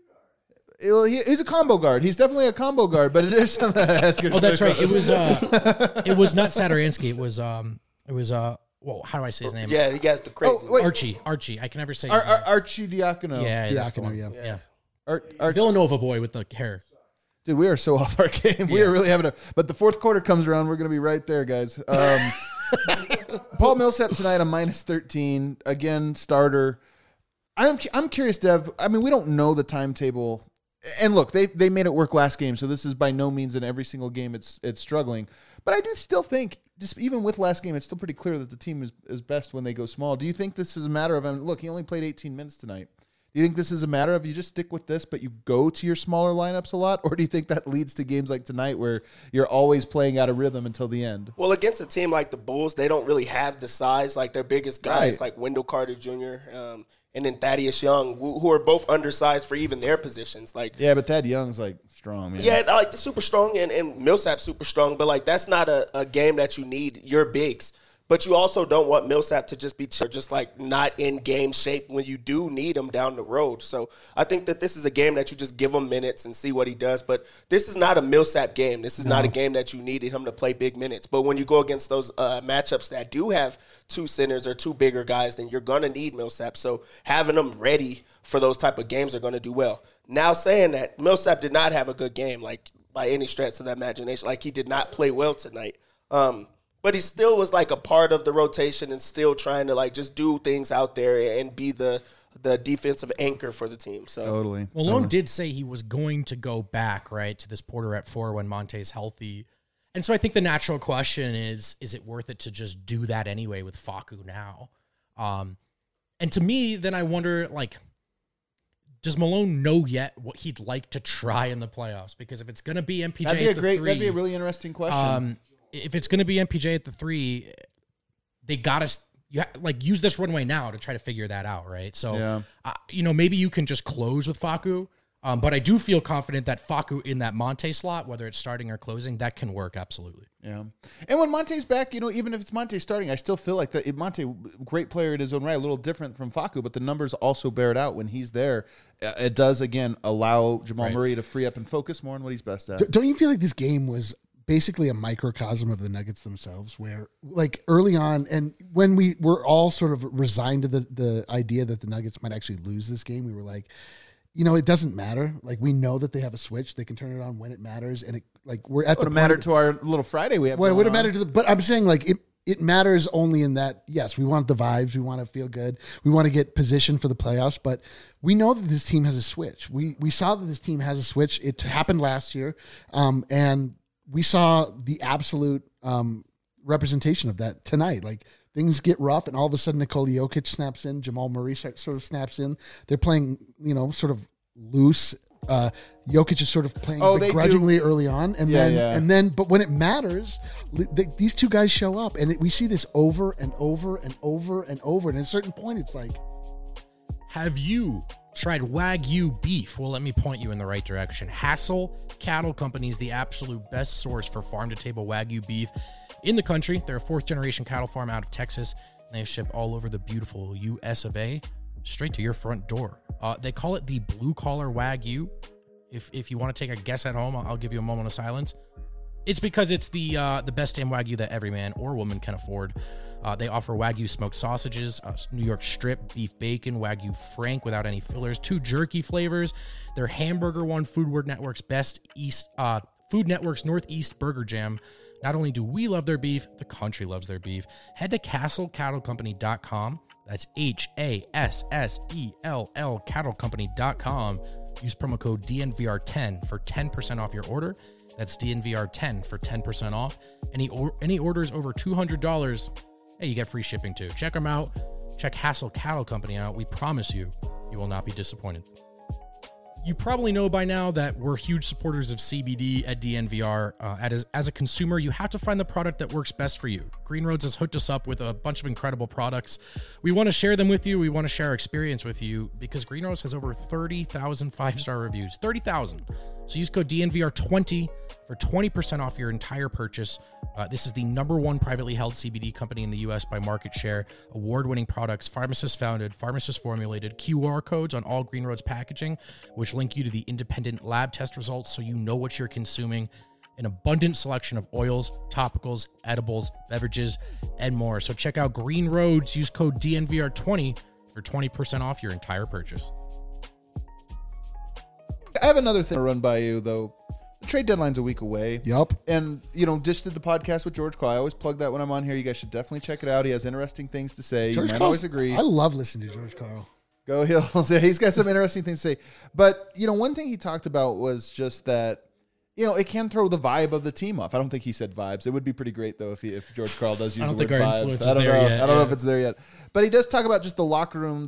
Speaker 2: he's a combo guard. He's definitely a combo guard, but it is something.
Speaker 1: Oh, that's right. It was not Saturansky. It was well, how do I say his name?
Speaker 3: Yeah, he has the crazy.
Speaker 2: Oh, wait.
Speaker 1: Archie. I can never say his name.
Speaker 2: Archie Diacono.
Speaker 1: Yeah, that's the
Speaker 4: Diacono,
Speaker 1: one.
Speaker 4: yeah.
Speaker 1: Yeah. Villanova boy with the hair.
Speaker 2: Dude, we are so off our game. We are really having but the fourth quarter comes around, we're going to be right there, guys. Paul Millsap tonight on -13. Again, starter. I'm curious, Dev. I mean, we don't know the timetable. And look, they made it work last game, so this is by no means in every single game it's struggling. But I do still think, just even with last game, it's still pretty clear that the team is best when they go small. Do you think this is a matter of, look, he only played 18 minutes tonight. Do you think this is a matter of you just stick with this, but you go to your smaller lineups a lot? Or do you think that leads to games like tonight where you're always playing out of rhythm until the end?
Speaker 3: Well, against a team like the Bulls, they don't really have the size. Like their biggest guys,
Speaker 2: Right.
Speaker 3: like Wendell Carter Jr. And then Thaddeus Young, who are both undersized for even their positions. Like,
Speaker 2: Yeah, but Thad Young's like strong, man.
Speaker 3: yeah, like the super strong and Millsap's super strong, but like that's not a game that you need your bigs. But you also don't want Millsap to just be just like not in game shape when you do need him down the road. So I think that this is a game that you just give him minutes and see what he does. But this is not a Millsap game. This is not a game that you needed him to play big minutes. But when you go against those matchups that do have two centers or two bigger guys, then you're going to need Millsap. So having them ready for those type of games are going to do well. Now saying that, Millsap did not have a good game, like by any stretch of the imagination. Like he did not play well tonight. But he still was like a part of the rotation and still trying to like just do things out there and be the defensive anchor for the team. So
Speaker 2: Totally.
Speaker 1: Malone did say he was going to go back, right, to this Porter at 4 when Monte's healthy. And so I think the natural question is it worth it to just do that anyway with Facu now? And to me, then I wonder, like, does Malone know yet what he'd like to try in the playoffs? Because if it's going to be MPJ
Speaker 2: That'd be a really interesting question.
Speaker 1: if it's going to be MPJ at the 3, they got to use this runway now to try to figure that out, right? So, maybe you can just close with Facu, but I do feel confident that Facu in that Monte slot, whether it's starting or closing, that can work absolutely.
Speaker 2: Yeah. And when Monte's back, even if it's Monte starting, I still feel like Monte, great player in his own right, a little different from Facu, but the numbers also bear it out when he's there. It does, again, allow Jamal Murray to free up and focus more on what he's best at.
Speaker 4: Don't you feel like this game was basically a microcosm of the Nuggets themselves, where like early on, and when we were all sort of resigned to the idea that the Nuggets might actually lose this game, we were like, it doesn't matter. Like, we know that they have a switch. They can turn it on when it matters. And we're at
Speaker 2: It would
Speaker 4: the
Speaker 2: matter
Speaker 4: point
Speaker 2: to our little Friday we have.
Speaker 4: well, it
Speaker 2: going
Speaker 4: would have
Speaker 2: on.
Speaker 4: mattered to but I'm saying, like, it matters only in that, yes, we want the vibes. We want to feel good. We want to get positioned for the playoffs. But we know that this team has a switch. We saw that this team has a switch. It happened last year. And we saw the absolute representation of that tonight. Like, things get rough, and all of a sudden Nikola Jokic snaps in. Jamal Murray sort of snaps in. They're playing, sort of loose. Jokic is sort of playing
Speaker 2: they
Speaker 4: begrudgingly early on, and
Speaker 2: Yeah,
Speaker 4: then, but when it matters, these two guys show up, and we see this over and over and over and over. And at a certain point, it's like,
Speaker 1: Have you tried Wagyu beef? Well, let me point you in the right direction. Hassel Cattle Company is the absolute best source for farm-to-table Wagyu beef in the country. They're a fourth-generation cattle farm out of Texas, and they ship all over the beautiful U.S. of A. straight to your front door. They call it the blue-collar Wagyu. If you want to take a guess at home, I'll give you a moment of silence. It's because it's the best damn Wagyu that every man or woman can afford. They offer Wagyu smoked sausages, New York strip, beef bacon, Wagyu Frank without any fillers, 2 jerky flavors. Their hamburger won Food Network's Food Network's Northeast Burger Jam. Not only do we love their beef, the country loves their beef. Head to CastleCattleCompany.com. That's HASSELL CattleCompany.com. Use promo code DNVR10 for 10% off your order. That's DNVR10 for 10% off. Any orders over $200, hey, you get free shipping too. Check them out. Check Hassel Cattle Company out. We promise you will not be disappointed. You probably know by now that we're huge supporters of CBD at DNVR. As a consumer, you have to find the product that works best for you. Green Roads has hooked us up with a bunch of incredible products. We want to share them with you. We want to share our experience with you because Green Roads has over 30,000 5-star reviews. 30,000. So use code DNVR20 for 20% off your entire purchase. This is the #1 privately held CBD company in the U.S. by market share. Award-winning products, pharmacist founded, pharmacist formulated, QR codes on all Green Roads packaging, which link you to the independent lab test results so you know what you're consuming. An abundant selection of oils, topicals, edibles, beverages, and more. So check out Green Roads. Use code DNVR20 for 20% off your entire purchase.
Speaker 2: I have another thing to run by you, though. The trade deadline's a week away.
Speaker 4: yup.
Speaker 2: And, just did the podcast with George Carl. I always plug that when I'm on here. You guys should definitely check it out. He has interesting things to say. You might always agree.
Speaker 4: I love listening to George Carl.
Speaker 2: Go Hills. He's got some interesting things to say. But, one thing he talked about was just that, it can throw the vibe of the team off. I don't think he said vibes. It would be pretty great, though, if George Carl does use
Speaker 1: I don't
Speaker 2: the word
Speaker 1: think our
Speaker 2: vibes.
Speaker 1: influence
Speaker 2: I don't
Speaker 1: is there
Speaker 2: know.
Speaker 1: yet,
Speaker 2: I don't know
Speaker 1: yeah.
Speaker 2: if it's there yet. But he does talk about just the locker room,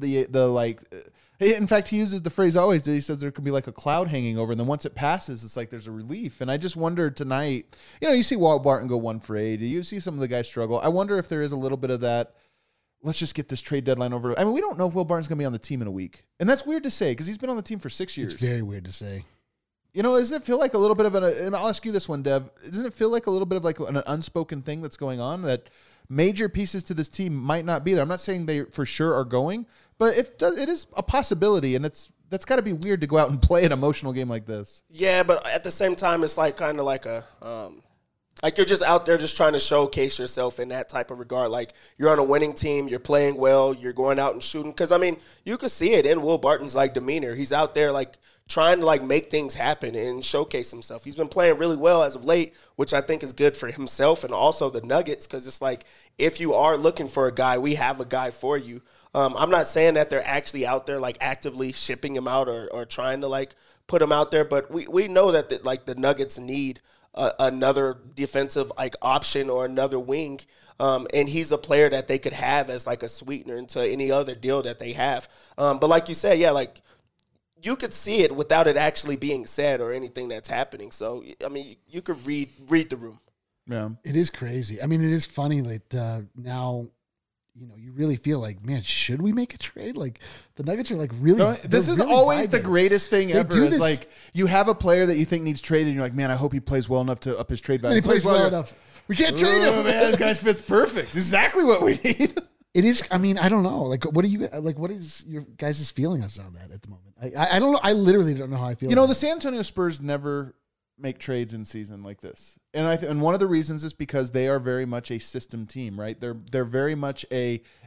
Speaker 2: in fact, he uses the phrase always. He says there could be like a cloud hanging over, and then once it passes, it's like there's a relief. And I just wondered tonight, you see Walt Barton go 1 for 8. You see some of the guys struggle. I wonder if there is a little bit of that. Let's just get this trade deadline over. I mean, we don't know if Will Barton's going to be on the team in a week, and that's weird to say because he's been on the team for 6 years.
Speaker 4: It's very weird to say.
Speaker 2: Doesn't it feel like a little bit of and I'll ask you this one, Dev. Doesn't it feel like a little bit of like an unspoken thing that's going on that major pieces to this team might not be there? I'm not saying they for sure are going, but it is a possibility, and that's got to be weird to go out and play an emotional game like this.
Speaker 3: Yeah, but at the same time, it's like kind of like a like you're just out there just trying to showcase yourself in that type of regard. Like you're on a winning team, you're playing well, you're going out and shooting. Because I mean, you could see it in Will Barton's like demeanor. He's out there like trying to like make things happen and showcase himself. He's been playing really well as of late, which I think is good for himself and also the Nuggets. Because it's like if you are looking for a guy, we have a guy for you. I'm not saying that they're actually out there like actively shipping him out or trying to like put him out there, but we know that the Nuggets need another defensive like option or another wing, and he's a player that they could have as like a sweetener into any other deal that they have. But like you said, yeah, like you could see it without it actually being said or anything that's happening. So I mean, you could read the room.
Speaker 2: Yeah,
Speaker 4: It is crazy. I mean, it is funny that now, you really feel like, man, should we make a trade? Like the Nuggets are like really.
Speaker 2: This is
Speaker 4: really
Speaker 2: always the
Speaker 4: vibing.
Speaker 2: greatest thing
Speaker 4: They
Speaker 2: ever.
Speaker 4: do
Speaker 2: Is
Speaker 4: this-
Speaker 2: like you have a player that you think needs traded, and you're like, man, I hope he plays well enough to up his trade
Speaker 4: And
Speaker 2: value.
Speaker 4: he plays well
Speaker 2: you're-
Speaker 4: enough. We can't trade
Speaker 2: Oh,
Speaker 4: him.
Speaker 2: man, this guy fits perfect. Exactly what we need.
Speaker 4: It is. I mean, I don't know. Like, what do you like? What is your guys' feeling on that at the moment? I don't know. I literally don't know how I feel.
Speaker 2: The
Speaker 4: about
Speaker 2: San Antonio Spurs never make trades in season like this, and and one of the reasons is because they are very much a system team, right? They're very much a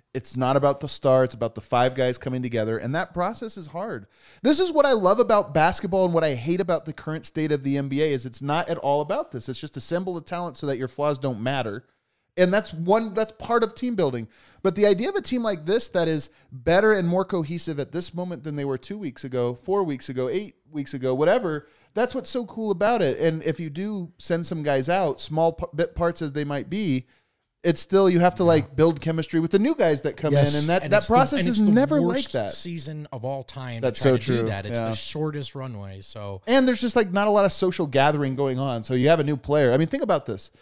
Speaker 2: It's not about the star. It's about the 5 guys coming together, and that process is hard. This is what I love about basketball and what I hate about the current state of the NBA is it's not at all about this. It's just assemble the talent so that your flaws don't matter. And that's part of team building. But the idea of a team like this that is better and more cohesive at this moment than they were 2 weeks ago, 4 weeks ago, 8 weeks ago, whatever, that's what's so cool about it. And if you do send some guys out, small bit parts as they might be, it's still, you have to like build chemistry with the new guys that come in, and that process is never like that.
Speaker 1: Season of all time.
Speaker 2: That's
Speaker 1: to try
Speaker 2: so
Speaker 1: to
Speaker 2: true.
Speaker 1: Do that. It's
Speaker 2: Yeah.
Speaker 1: the shortest runway. So,
Speaker 2: and there's just like not a lot of social gathering going on. So you have a new player. I mean, think about this.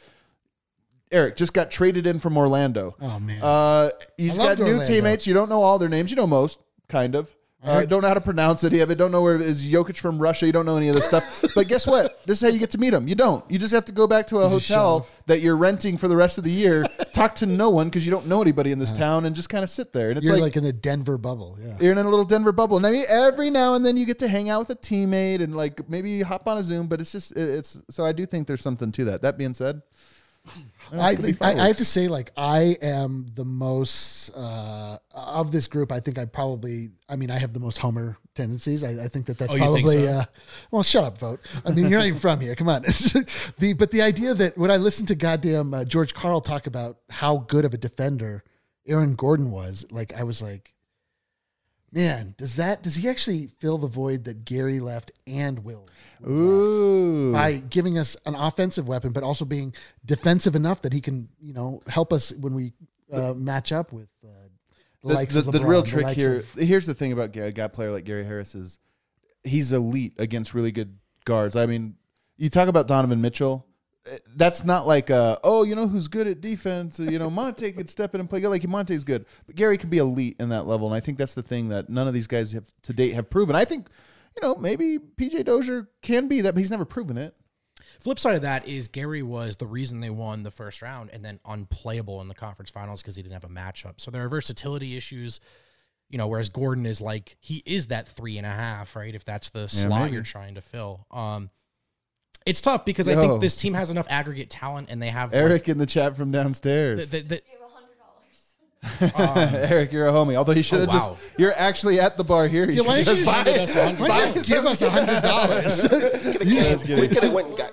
Speaker 2: Eric just got traded in from Orlando.
Speaker 4: Oh man,
Speaker 2: You just
Speaker 4: I
Speaker 2: got
Speaker 4: loved
Speaker 2: new
Speaker 4: Orlando.
Speaker 2: teammates. You don't know all their names. You know most, kind of. Don't know how to pronounce it. You don't know where is Jokic from Russia. You don't know any of this stuff. But guess what? This is how you get to meet them. You don't. You just have to go back to a hotel that you're renting for the rest of the year, talk to no one because you don't know anybody in this town, and just kind of sit there. And it's
Speaker 4: you're like in the Denver bubble. Yeah.
Speaker 2: you're in a little Denver bubble. And I mean, every now and then you get to hang out with a teammate and like maybe hop on a Zoom. But it's just so I do think there's something to that. That being said,
Speaker 4: I have to say, like, I am the most of this group. I think I have the most Homer tendencies. I think that's
Speaker 1: Oh, you
Speaker 4: probably.
Speaker 1: think so?
Speaker 4: Well, shut up, vote. I mean, you're not even from here. Come on. But the idea that when I listened to goddamn George Karl talk about how good of a defender Aaron Gordon was, like, I was like, man, does he actually fill the void that Gary left and Will?
Speaker 2: ooh,
Speaker 4: By giving us an offensive weapon, but also being defensive enough that he can, help us when we match up with the likes of LeBron.
Speaker 2: The real trick here. Here's the thing about a guy player like Gary Harris is he's elite against really good guards. I mean, you talk about Donovan Mitchell. That's not like who's good at defense. Monte could step in and play good. Like Monte's good, but Gary can be elite in that level. And I think that's the thing that none of these guys have to date have proven. I think, maybe PJ Dozier can be that, but he's never proven it.
Speaker 1: flip side of that is Gary was the reason they won the first round and then unplayable in the conference finals because he didn't have a matchup. So there are versatility issues, whereas Gordon is like, he is that 3.5, right? If that's the slot
Speaker 2: maybe.
Speaker 1: you're trying to fill. It's tough because I think this team has enough aggregate talent and they have
Speaker 2: Eric in the chat from downstairs.
Speaker 6: You have $100.
Speaker 2: Eric, you're a homie. Although you should have you're actually at the bar here. You
Speaker 4: why
Speaker 2: should
Speaker 4: don't you
Speaker 2: just
Speaker 4: just
Speaker 2: buy
Speaker 1: Why don't you
Speaker 2: it.
Speaker 4: give us $100?
Speaker 3: We could have went and got.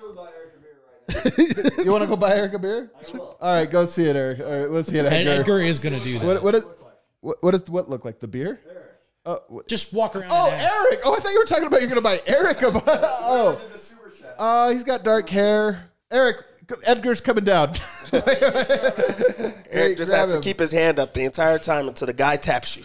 Speaker 2: You want to go buy Eric a beer? All right, go see it, Eric. All right, let's see it,
Speaker 1: And
Speaker 2: Edgar.
Speaker 1: Edgar is going to do that.
Speaker 2: What does what look like? The beer?
Speaker 1: Just walk around.
Speaker 2: Oh,
Speaker 1: and ask.
Speaker 2: Eric! Oh, I thought you were talking about you're going to buy Eric a oh.
Speaker 7: The super chat.
Speaker 2: He's got dark hair. Eric, Edgar's coming down.
Speaker 3: Eric just has to keep his hand up the entire time until the guy taps you.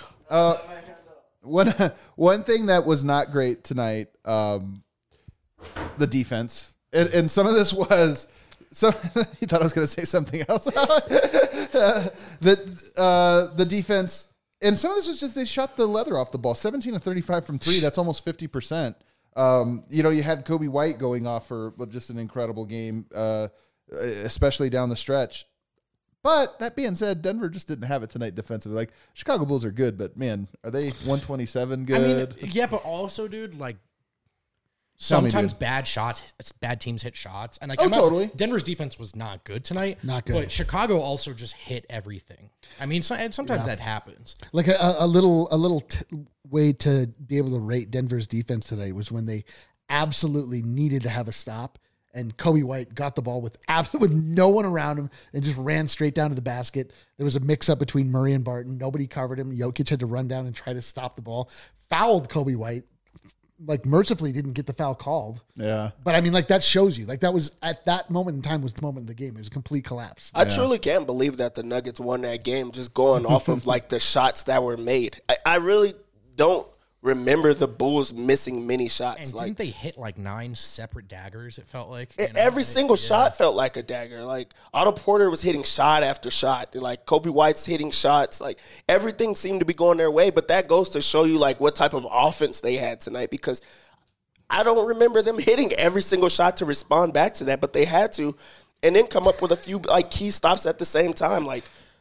Speaker 2: One thing that was not great tonight, the defense, and some of this was. So he thought I was going to say something else. The defense, and some of this was just they shot the leather off the ball. 17 of 35 from three. That's almost 50%. You had Kobe White going off for just an incredible game, especially down the stretch. But that being said, Denver just didn't have it tonight defensively. Like, Chicago Bulls are good, but man, are they 127 good?
Speaker 1: I mean, yeah, but also, dude, like,
Speaker 2: Tell me,
Speaker 1: sometimes
Speaker 2: dude.
Speaker 1: bad teams hit shots. And like,
Speaker 2: totally.
Speaker 1: Denver's defense was not good tonight.
Speaker 4: Not good.
Speaker 1: But Chicago also just hit everything. I mean, sometimes that happens.
Speaker 4: Like a little way to be able to rate Denver's defense today was when they absolutely needed to have a stop, and Kobe White got the ball with no one around him and just ran straight down to the basket. There was a mix-up between Murray and Barton. Nobody covered him. Jokic had to run down and try to stop the ball. Fouled Kobe White. Like, mercifully didn't get the foul called.
Speaker 2: Yeah.
Speaker 4: But I mean, like, that shows you. Like, that was at that moment in time was the moment of the game. It was a complete collapse.
Speaker 3: I truly can't believe that the Nuggets won that game just going off of like the shots that were made. I really don't remember the Bulls missing many shots.
Speaker 1: And
Speaker 3: Like
Speaker 1: didn't they hit like 9 separate daggers, it felt like?
Speaker 3: every single shot felt like a dagger. Like Otto Porter was hitting shot after shot. Like Kobe White's hitting shots. Like everything seemed to be going their way. But that goes to show you like what type of offense they had tonight, because I don't remember them hitting every single shot to respond back to that, but they had to, and then come up with a few like key stops at the same time. Like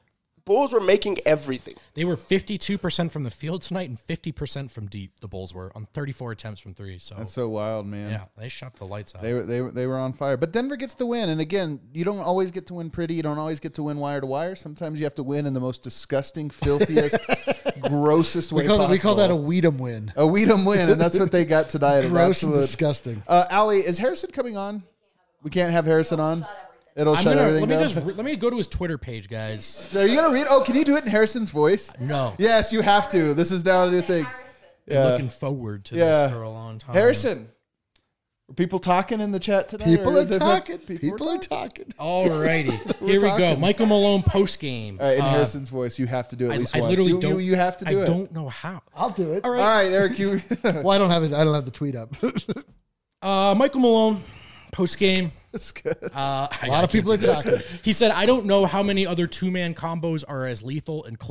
Speaker 3: Bulls were making everything.
Speaker 1: They were 52% from the field tonight and 50% from deep. The Bulls were on 34 attempts from three. So
Speaker 2: That's so wild, man.
Speaker 1: yeah, they shot the lights out.
Speaker 2: They were on fire. But Denver gets the win. And again, you don't always get to win pretty. You don't always get to win wire to wire. Sometimes you have to win in the most disgusting, filthiest, grossest way possible.
Speaker 4: We call that a Weedham win.
Speaker 2: A Weedham win, and that's what they got tonight.
Speaker 4: Gross and disgusting.
Speaker 2: Allie, is Harrison coming on? We can't have Harrison on? It'll shut everything down.
Speaker 1: Let me go to his Twitter page, guys.
Speaker 2: Are you going to read? Oh, can you do it in Harrison's voice?
Speaker 1: No.
Speaker 2: Yes, you have to. This is now a new thing.
Speaker 1: Been looking forward to this for a long time.
Speaker 2: Harrison, are people talking in the chat today?
Speaker 4: People
Speaker 2: Or
Speaker 4: are talking. People are
Speaker 2: talking.
Speaker 4: talking.
Speaker 1: Alrighty, here we go.
Speaker 2: talking.
Speaker 1: Michael Malone post game.
Speaker 2: All right, in Harrison's voice, you have to do it at least
Speaker 1: I
Speaker 2: once.
Speaker 1: literally
Speaker 2: you,
Speaker 1: don't.
Speaker 2: You have to do
Speaker 1: I
Speaker 2: it.
Speaker 1: don't know how.
Speaker 4: I'll do it.
Speaker 1: All
Speaker 2: All right, Eric, you.
Speaker 4: Well, I don't have it. I don't have the tweet up.
Speaker 1: Michael Malone post game.
Speaker 2: That's good.
Speaker 1: A
Speaker 4: A lot of people are talking.
Speaker 1: He said, "I don't know how many other 2-man combos are as lethal and close."